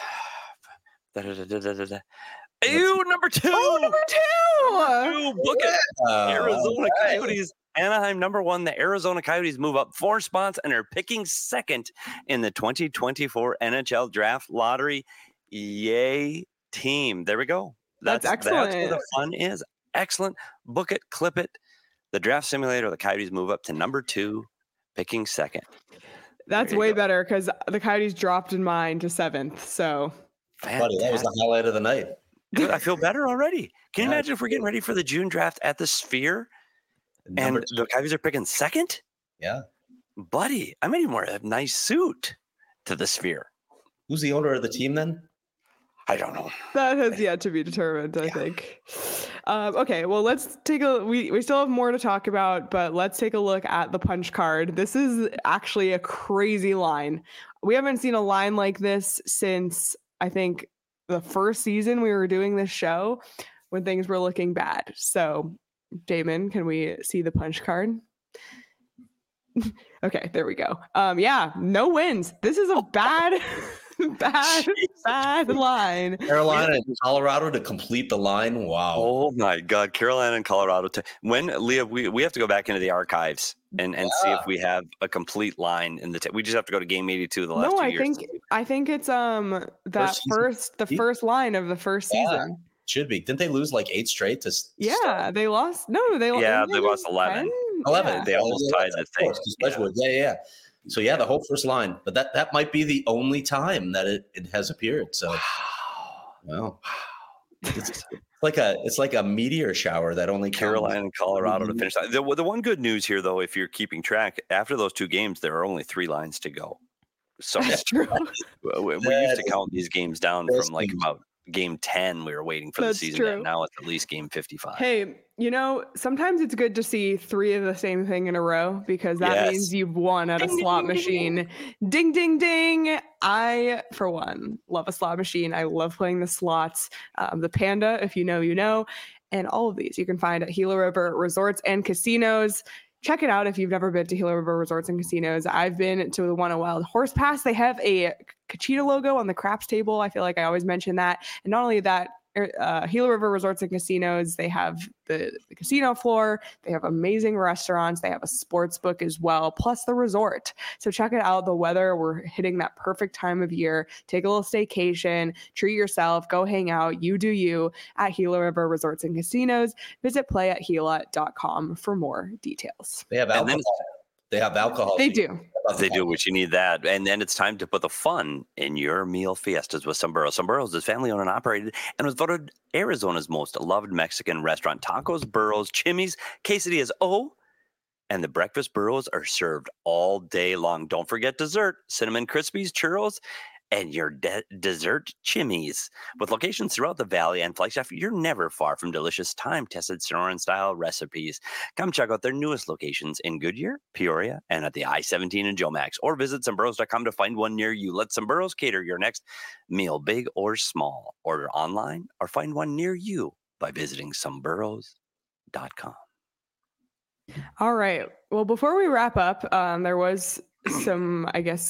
Number 2. Oh, number 2. Book it. Arizona Coyotes. Anaheim number 1. The Arizona Coyotes move up 4 spots and are picking 2nd in the 2024 NHL Draft Lottery. Yay, team. There we go. That's excellent. That's where the fun is. Excellent. Book it, clip it. The draft simulator, the Coyotes move up to number 2, picking 2nd. That's way better because the Coyotes dropped in mine to 7th. So, buddy, that was the highlight of the night. Dude, I feel better already. Can you imagine if we're getting ready for the June draft at the Sphere and the Coyotes are picking 2nd? Yeah. Buddy, I might even wear a nice suit to the Sphere. Who's the owner of the team then? I don't know. That has yet to be determined, I think. Okay, well, let's take we still have more to talk about, but let's take a look at the punch card. This is actually a crazy line. We haven't seen a line like this since, I think, the first season we were doing this show when things were looking bad. So, Damon, can we see the punch card? Okay, there we go. Yeah, no wins. This is a bad line. Carolina and Colorado to complete the line. Wow. Oh my God, Carolina and Colorado. When Leah, we have to go back into the archives and see if we have a complete line in the. We just have to go to game 82 the last 2 years. I think it's the first line of the first season. Should be. Didn't they lose like 8 straight to start? They lost. No, they lost 11. 11. Yeah. They almost tied the thing. Yeah. So the whole first line, but that might be the only time that it has appeared. So, wow, it's like a meteor shower that only Carolina and Colorado to finish. The one good news here, though, if you're keeping track, after those 2 games, there are only 3 lines to go. So that's true. We used to count these games down from like about game 10. We were waiting for the season. And now it's at least game 55. Hey, sometimes it's good to see 3 of the same thing in a row because that means you've won at a slot machine. Ding, ding, ding. I, for one, love a slot machine. I love playing the slots. The Panda, if you know, you know. And all of these you can find at Gila River Resorts and Casinos. Check it out if you've never been to Gila River Resorts and Casinos. I've been to the one at Wild Horse Pass. They have a Kachita logo on the craps table. I feel like I always mention that. And not only that, Gila River Resorts and Casinos, they have the casino floor. They have amazing restaurants. They have a sports book as well, plus the resort. So check it out. The weather, we're hitting that perfect time of year. Take a little staycation, treat yourself, go hang out. You do you at Gila River Resorts and Casinos. Visit playatgila.com for more details. They have alcohol. They have alcohol. They do. They do, which you need that. And then it's time to put the fun in your meal fiestas with Sombreros. Sombreros is family owned and operated and was voted Arizona's most loved Mexican restaurant. Tacos, burros, chimis, quesadillas. And the breakfast burros are served all day long. Don't forget dessert, Cinnamon Krispies, churros, and your dessert chimis. With locations throughout the valley and Flagstaff, you're never far from delicious time-tested Sonoran-style recipes. Come check out their newest locations in Goodyear, Peoria, and at the I-17 in Jomax. Or visit Sombreros.com to find one near you. Let Sombreros cater your next meal, big or small. Order online or find one near you by visiting Sombreros.com. All right. Well, before we wrap up, there was some, I guess,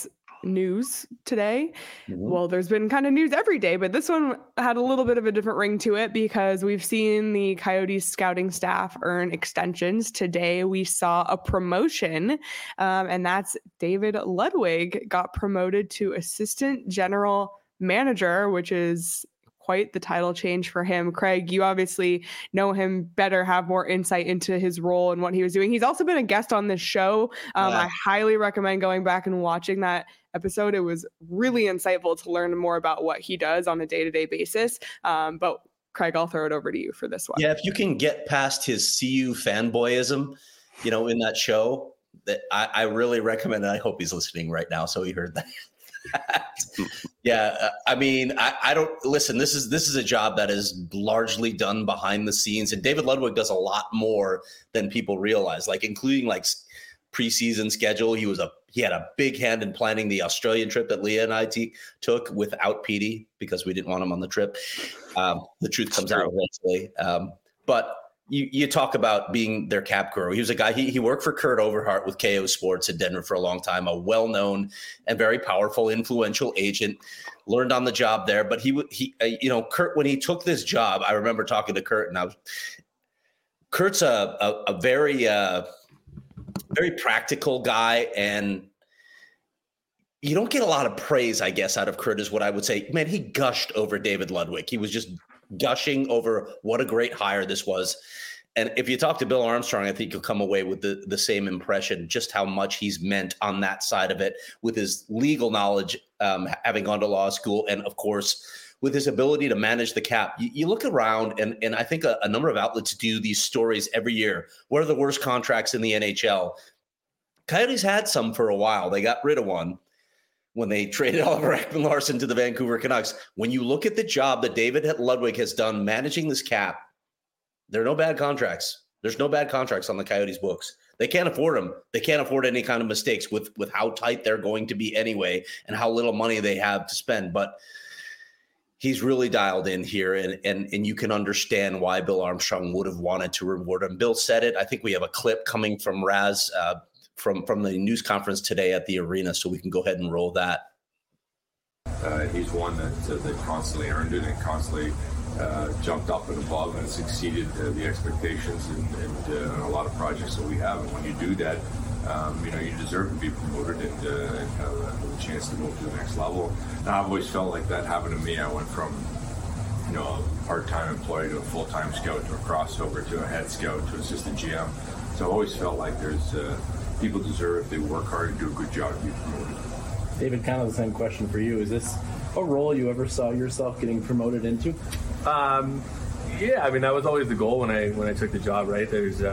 news today. Well, there's been kind of news every day, but this one had a little bit of a different ring to it because we've seen the Coyotes scouting staff earn extensions. Today, we saw a promotion, and that's David Ludwig got promoted to assistant general manager, which is quite the title change for him. Craig, you obviously know him better, have more insight into his role and what he was doing. He's also been a guest on this show. I highly recommend going back and watching that episode. It was really insightful to learn more about what he does on a day-to-day basis. But Craig, I'll throw it over to you for this one. Yeah, if you can get past his CU fanboyism, in that show, that I really recommend it. I hope he's listening right now, so he heard that. Yeah, I mean, I don't listen. This is a job that is largely done behind the scenes, and David Ludwig does a lot more than people realize, like including like preseason schedule. He had a big hand in planning the Australian trip that Leah and I took without Petey because we didn't want him on the trip. The truth comes out eventually, but. You talk about being their cap guru. He was a guy, he worked for Kurt Overhart with KO Sports in Denver for a long time, a well-known and very powerful, influential agent, learned on the job there. But Kurt, when he took this job, I remember talking to Kurt, and Kurt's a very, very practical guy, and you don't get a lot of praise, I guess, out of Kurt is what I would say. Man, he gushed over David Ludwig. He was just gushing over what a great hire this was. And if you talk to Bill Armstrong, I think you'll come away with the same impression, just how much he's meant on that side of it with his legal knowledge, having gone to law school, and of course, with his ability to manage the cap. You look around, and I think a number of outlets do these stories every year. What are the worst contracts in the NHL? Coyotes had some for a while. They got rid of one when they traded Oliver Ekman-Larsson to the Vancouver Canucks. When you look at the job that David Ludwig has done managing this cap, there are no bad contracts. There's no bad contracts on the Coyotes books. They can't afford them. They can't afford any kind of mistakes with how tight they're going to be anyway and how little money they have to spend. But he's really dialed in here, and you can understand why Bill Armstrong would have wanted to reward him. Bill said it. I think we have a clip coming from Raz from the news conference today at the arena, so we can go ahead and roll that. He's one that constantly earned it and constantly jumped up and above and succeeded the expectations and a lot of projects that we have. And when you do that, you deserve to be promoted and have a chance to move to the next level. And I've always felt like that happened to me. I went from a part-time employee to a full-time scout to a crossover to a head scout to assistant GM. So I've always felt like there's people deserve, if they work hard and do a good job, to be promoted. David, kind of the same question for you. Is this a role you ever saw yourself getting promoted into? Yeah, I mean, that was always the goal when I took the job, right?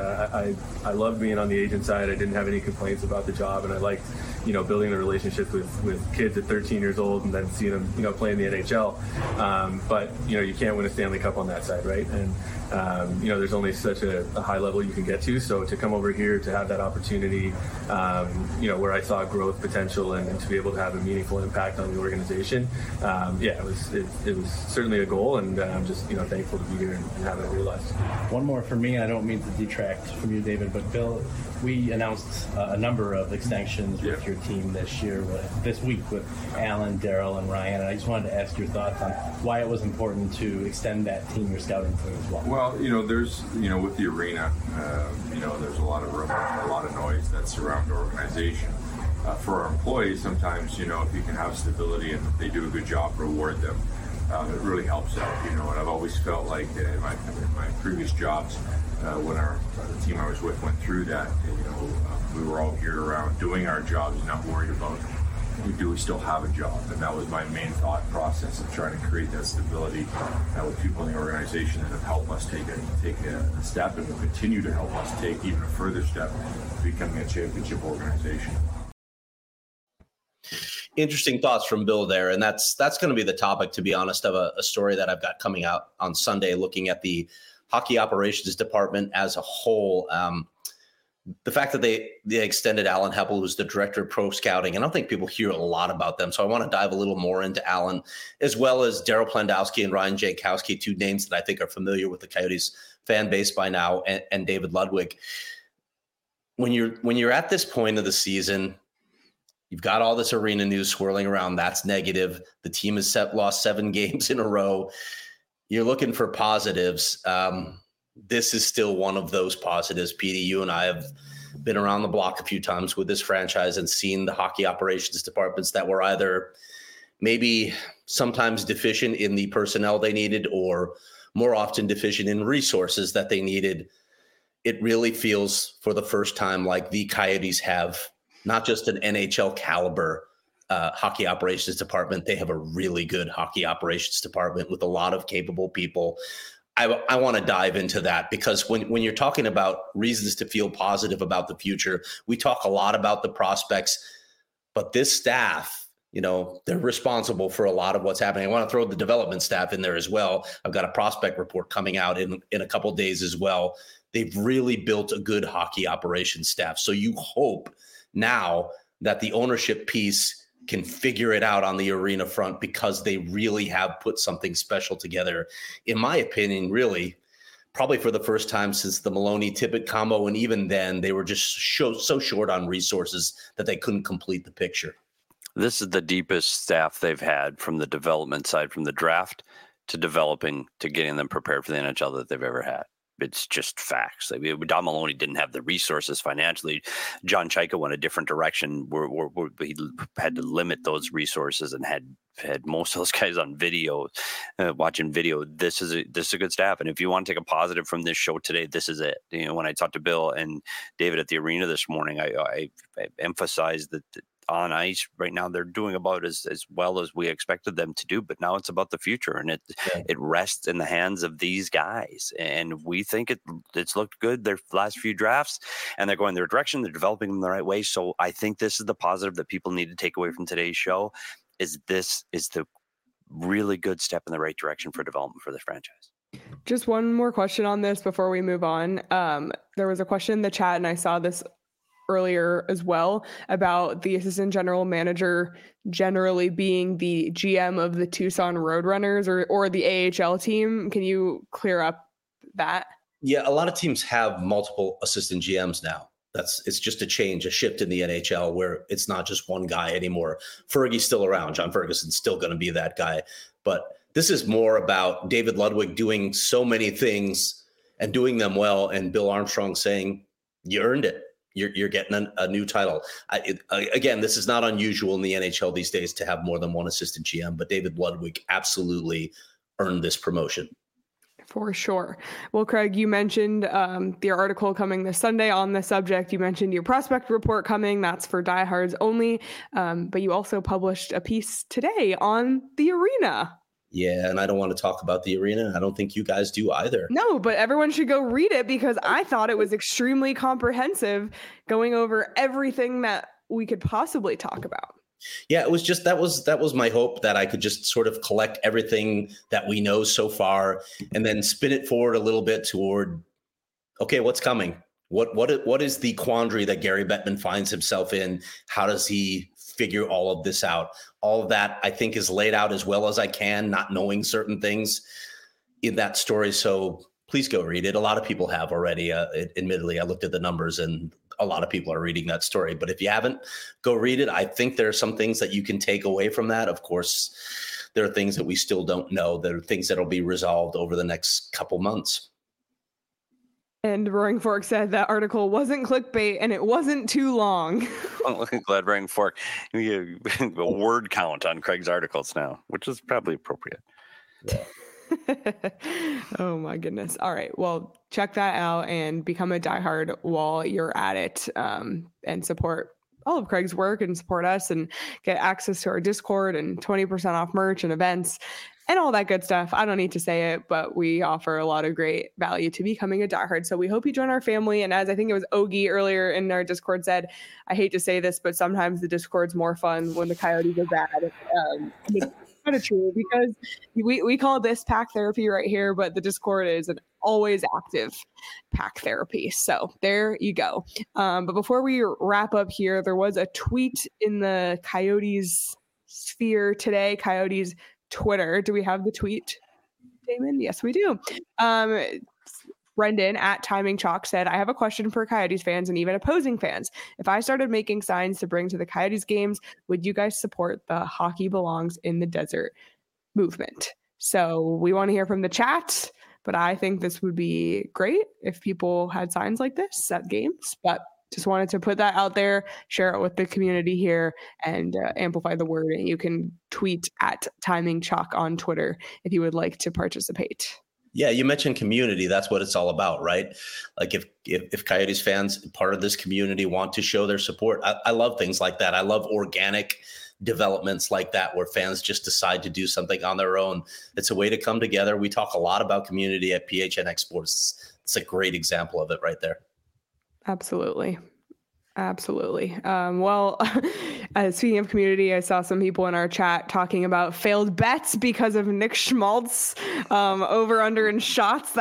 I loved being on the agent side. I didn't have any complaints about the job, and I liked, building a relationship with kids at 13 years old and then seeing them, play in the NHL. But, you can't win a Stanley Cup on that side, right? And, there's only such a high level you can get to. So to come over here, to have that opportunity, where I saw growth potential and to be able to have a meaningful impact on the organization, it was certainly a goal, and I'm just, thankful to be here and have it realized. One more for me. I don't mean to detract from you, David, but Bill, we announced a number of extensions with your team this week with Alan, Daryl, and Ryan, and I just wanted to ask your thoughts on why it was important to extend that team, your scouting team as well. Well, there's, with the arena, there's a lot of room, a lot of noise that surround the organization. For our employees, sometimes, if you can have stability and if they do a good job, reward them. It really helps out, and I've always felt like in my previous jobs, when the team I was with went through that, we were all geared around doing our jobs, not worried about do we still have a job, and that was my main thought process of trying to create that stability with people in the organization that have helped us take a step and will continue to help us take even a further step to becoming a championship organization. Interesting thoughts from Bill there, and that's going to be the topic, to be honest, of a story that I've got coming out on Sunday, looking at the hockey operations department as a whole. The fact that they extended Alan Heppel, who's the director of pro scouting, and I don't think people hear a lot about them, so I want to dive a little more into Alan, as well as Daryl Plandowski and Ryan Jankowski, two names that I think are familiar with the Coyotes fan base by now, and David Ludwig. When you're at this point of the season, You've got all this arena news swirling around. That's negative. The team has lost 7 games in a row. You're looking for positives. This is still one of those positives. Petey, you and I have been around the block a few times with this franchise and seen the hockey operations departments that were either maybe sometimes deficient in the personnel they needed or more often deficient in resources that they needed. It really feels for the first time like the Coyotes have not just an NHL caliber hockey operations department. They have a really good hockey operations department with a lot of capable people. I want to dive into that because when you're talking about reasons to feel positive about the future, we talk a lot about the prospects, but this staff, you know, they're responsible for a lot of what's happening. I want to throw the development staff in there as well. I've got a prospect report coming out in a couple of days as well. They've really built a good hockey operations staff. So you hope now that the ownership piece can figure it out on the arena front because they really have put something special together. In my opinion, really, probably for the first time since the Maloney-Tippett combo, and even then, they were just so short on resources that they couldn't complete the picture. This is the deepest staff they've had from the development side, from the draft to developing to getting them prepared for the NHL that they've ever had. It's just facts. I mean, Don Maloney didn't have the resources financially. John Chaika went a different direction where he had to limit those resources and had most of those guys on video, watching video. This is a good staff. And if you want to take a positive from this show today, this is it. You know, when I talked to Bill and David at the arena this morning, I emphasized that on ice right now they're doing about as well as we expected them to do, but now it's about the future, and it rests in the hands of these guys, and we think it's looked good their last few drafts, and they're going their direction, they're developing them the right way. So I think this is the positive that people need to take away from today's show, is this is the really good step in the right direction for development for the franchise. Just one more question on this before we move on. There was a question in the chat, and I saw this earlier as well, about the assistant general manager generally being the GM of the Tucson Roadrunners or the AHL team. Can you clear up that? Yeah, a lot of teams have multiple assistant GMs now. It's just a shift in the NHL where it's not just one guy anymore. Fergie's still around. John Ferguson's still going to be that guy. But this is more about David Ludwig doing so many things and doing them well, and Bill Armstrong saying, you earned it. You're getting a new title. Again, this is not unusual in the NHL these days to have more than one assistant GM, but David Ludwig absolutely earned this promotion. For sure. Well, Craig, you mentioned the article coming this Sunday on the subject. You mentioned your prospect report coming. That's for diehards only. But you also published a piece today on the arena. Yeah, and I don't want to talk about the arena. I don't think you guys do either. No, but everyone should go read it because I thought it was extremely comprehensive, going over everything that we could possibly talk about. Yeah, it was just that was my hope, that I could just sort of collect everything that we know so far and then spin it forward a little bit toward, okay, what's coming? What is the quandary that Gary Bettman finds himself in? How does he figure all of this out? All of that, I think, is laid out as well as I can, not knowing certain things in that story. So please go read it. A lot of people have already. Admittedly, I looked at the numbers and a lot of people are reading that story. But if you haven't, go read it. I think there are some things that you can take away from that. Of course, there are things that we still don't know. There are things that will be resolved over the next couple months. And Roaring Fork said that article wasn't clickbait and it wasn't too long. I'm glad Roaring Fork, a word count on Craig's articles now, which is probably appropriate. Yeah. Oh my goodness. All right. Well, check that out and become a diehard while you're at it, and support all of Craig's work and support us and get access to our Discord and 20% off merch and events and all that good stuff. I don't need to say it, but we offer a lot of great value to becoming a diehard. So we hope you join our family. And as I think it was Ogie earlier in our Discord said, I hate to say this, but sometimes the Discord's more fun when the Coyotes are bad. It's kind of true because we call this pack therapy right here, but the Discord is an always active pack therapy. So there you go. But before we wrap up here, there was a tweet in the Coyotes sphere today, Coyotes Twitter. Do we have the tweet, Damon? Yes, we do. Brendan at Timing Chalk said, I have a question for Coyotes fans and even opposing fans. If I started making signs to bring to the Coyotes games, would you guys support the Hockey Belongs in the Desert movement? So we want to hear from the chat, but I think this would be great if people had signs like this at games. But just wanted to put that out there, share it with the community here, and amplify the word. And you can tweet at Timing Chalk on Twitter if you would like to participate. Yeah, you mentioned community. That's what it's all about, right? Like if Coyotes fans, part of this community, want to show their support, I love things like that. I love organic developments like that where fans just decide to do something on their own. It's a way to come together. We talk a lot about community at PHNX Sports. It's a great example of it right there. Absolutely. Well, speaking of community, I saw some people in our chat talking about failed bets because of Nick Schmaltz over under in shots.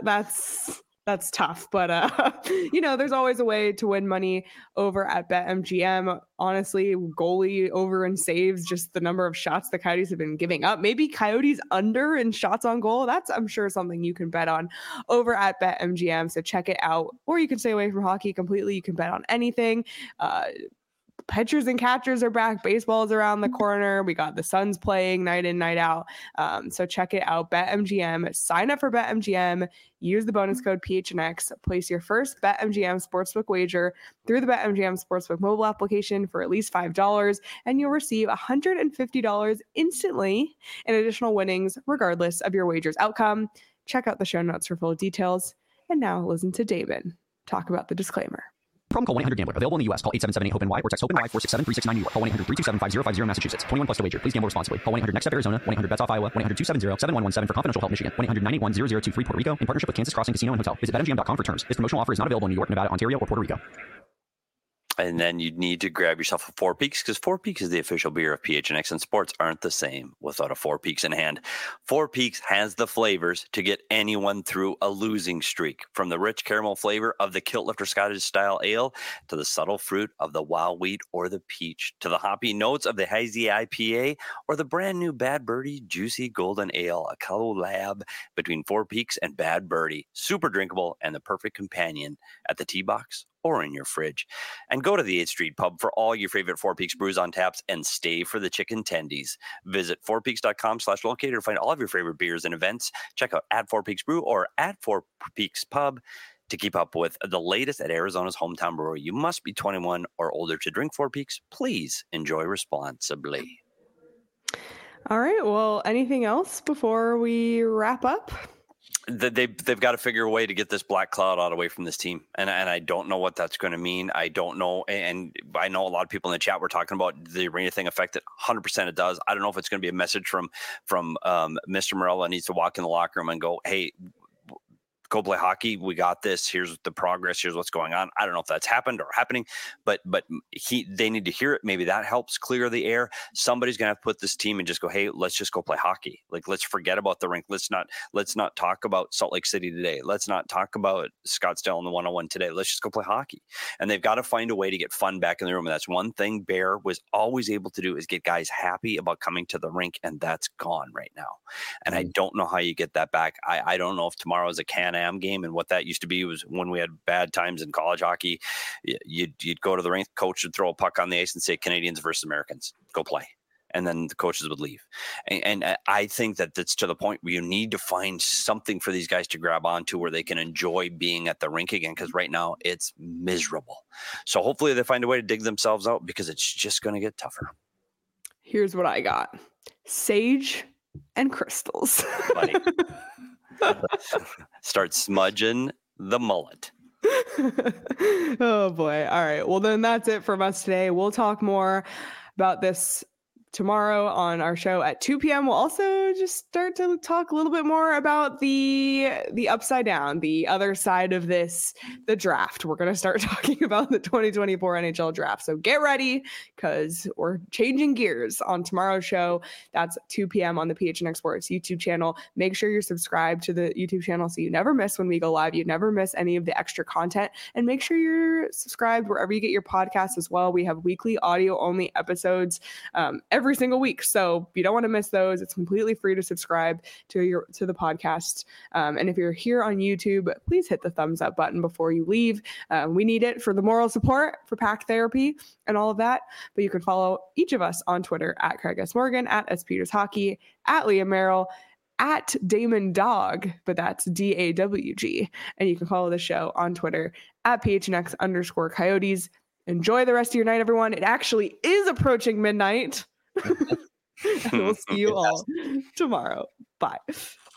That's tough, but there's always a way to win money over at BetMGM. Honestly, goalie over in saves, just the number of shots the Coyotes have been giving up. Maybe Coyotes under in shots on goal. That's, I'm sure, something you can bet on over at BetMGM. So check it out, or you can stay away from hockey completely. You can bet on anything. Pitchers and catchers are back. Baseball is around the corner. We got the Suns playing night in, night out. So check it out. BetMGM. Sign up for BetMGM. Use the bonus code PHNX. Place your first BetMGM Sportsbook wager through the BetMGM Sportsbook mobile application for at least $5, and you'll receive $150 instantly in additional winnings, regardless of your wager's outcome. Check out the show notes for full details. And now listen to David talk about the disclaimer. Promo call 1-800-GAMBLER. Available in the U.S. Call 877-8-HOPE-NY or text HOPE-NY 467-369 New York. Call 1-800-327-5050 Massachusetts. 21 plus to wager. Please gamble responsibly. Call 1-800-NEXT-STEP Arizona. 1-800-BETS-OFF Iowa. 1-800-270-7117 for confidential help Michigan. 1-800-981-0023 Puerto Rico in partnership with Kansas Crossing Casino and Hotel. Visit BetMGM.com for terms. This promotional offer is not available in New York, Nevada, Ontario, or Puerto Rico. And then you need to grab yourself a Four Peaks, because Four Peaks is the official beer of PHNX, and sports aren't the same without a Four Peaks in hand. Four Peaks has the flavors to get anyone through a losing streak, from the rich caramel flavor of the Kilt Lifter Scottish style ale to the subtle fruit of the wild wheat or the peach, to the hoppy notes of the hazy IPA or the brand new Bad Birdie Juicy Golden Ale, a collab between Four Peaks and Bad Birdie. Super drinkable and the perfect companion at the tee box or in your fridge. And go to the 8th Street Pub for all your favorite Four Peaks brews on taps, and stay for the chicken tendies. Visit fourpeaks.com/locator to find all of your favorite beers and events. Check out at Four Peaks Brew or at Four Peaks Pub to keep up with the latest at Arizona's hometown brewery. You must be 21 or older to drink Four Peaks. Please enjoy responsibly. All right. Well, anything else before we wrap up? They've got to figure a way to get this black cloud out away from this team, and I don't know what that's going to mean. I don't know, and I know a lot of people in the chat were talking about the arena thing affected. 100% it does. I don't know if it's going to be a message from Mr. Morella needs to walk in the locker room and go, "Hey, go play hockey. We got this. Here's the progress. Here's what's going on." I don't know if that's happened or happening, but they need to hear it. Maybe that helps clear the air. Somebody's going to have to put this team and just go, "Hey, let's just go play hockey. Like, let's forget about the rink. Let's not talk about Salt Lake City today. Let's not talk about Scottsdale in the 101 today. Let's just go play hockey." And they've got to find a way to get fun back in the room. And that's one thing Bear was always able to do, is get guys happy about coming to the rink. And that's gone right now. And I don't know how you get that back. I don't know if tomorrow is a Can-Am game, and what that used to be was when we had bad times in college hockey, you'd go to the rink, coach would throw a puck on the ice and say Canadians versus Americans, go play, and then the coaches would leave. And I think that that's to the point where you need to find something for these guys to grab onto where they can enjoy being at the rink again, because right now it's miserable. So hopefully they find a way to dig themselves out, because it's just going to get tougher. Here's what I got: sage and crystals. Buddy. Start smudging the mullet. Oh boy. All right. Well, then that's it from us today. We'll talk more about this tomorrow on our show at 2 p.m. We'll also just start to talk a little bit more about the upside down, the other side of this, the draft. We're going to start talking about the 2024 NHL draft. So get ready, because we're changing gears on tomorrow's show. That's 2 p.m. on the PHNX Sports YouTube channel. Make sure you're subscribed to the YouTube channel so you never miss when we go live. You never miss any of the extra content. And make sure you're subscribed wherever you get your podcasts as well. We have weekly audio only episodes every every single week. So you don't want to miss those. It's completely free to subscribe to the podcast. And if you're here on YouTube, please hit the thumbs up button before you leave. We need it for the moral support for PAC therapy and all of that. But you can follow each of us on Twitter at Craig S. Morgan, at S. Peters Hockey, at Leah Merrill, at Damon Dog, but that's DAWG. And you can follow the show on Twitter at PHNX_Coyotes. Enjoy the rest of your night, everyone. It actually is approaching midnight. And we'll see you all tomorrow. Bye.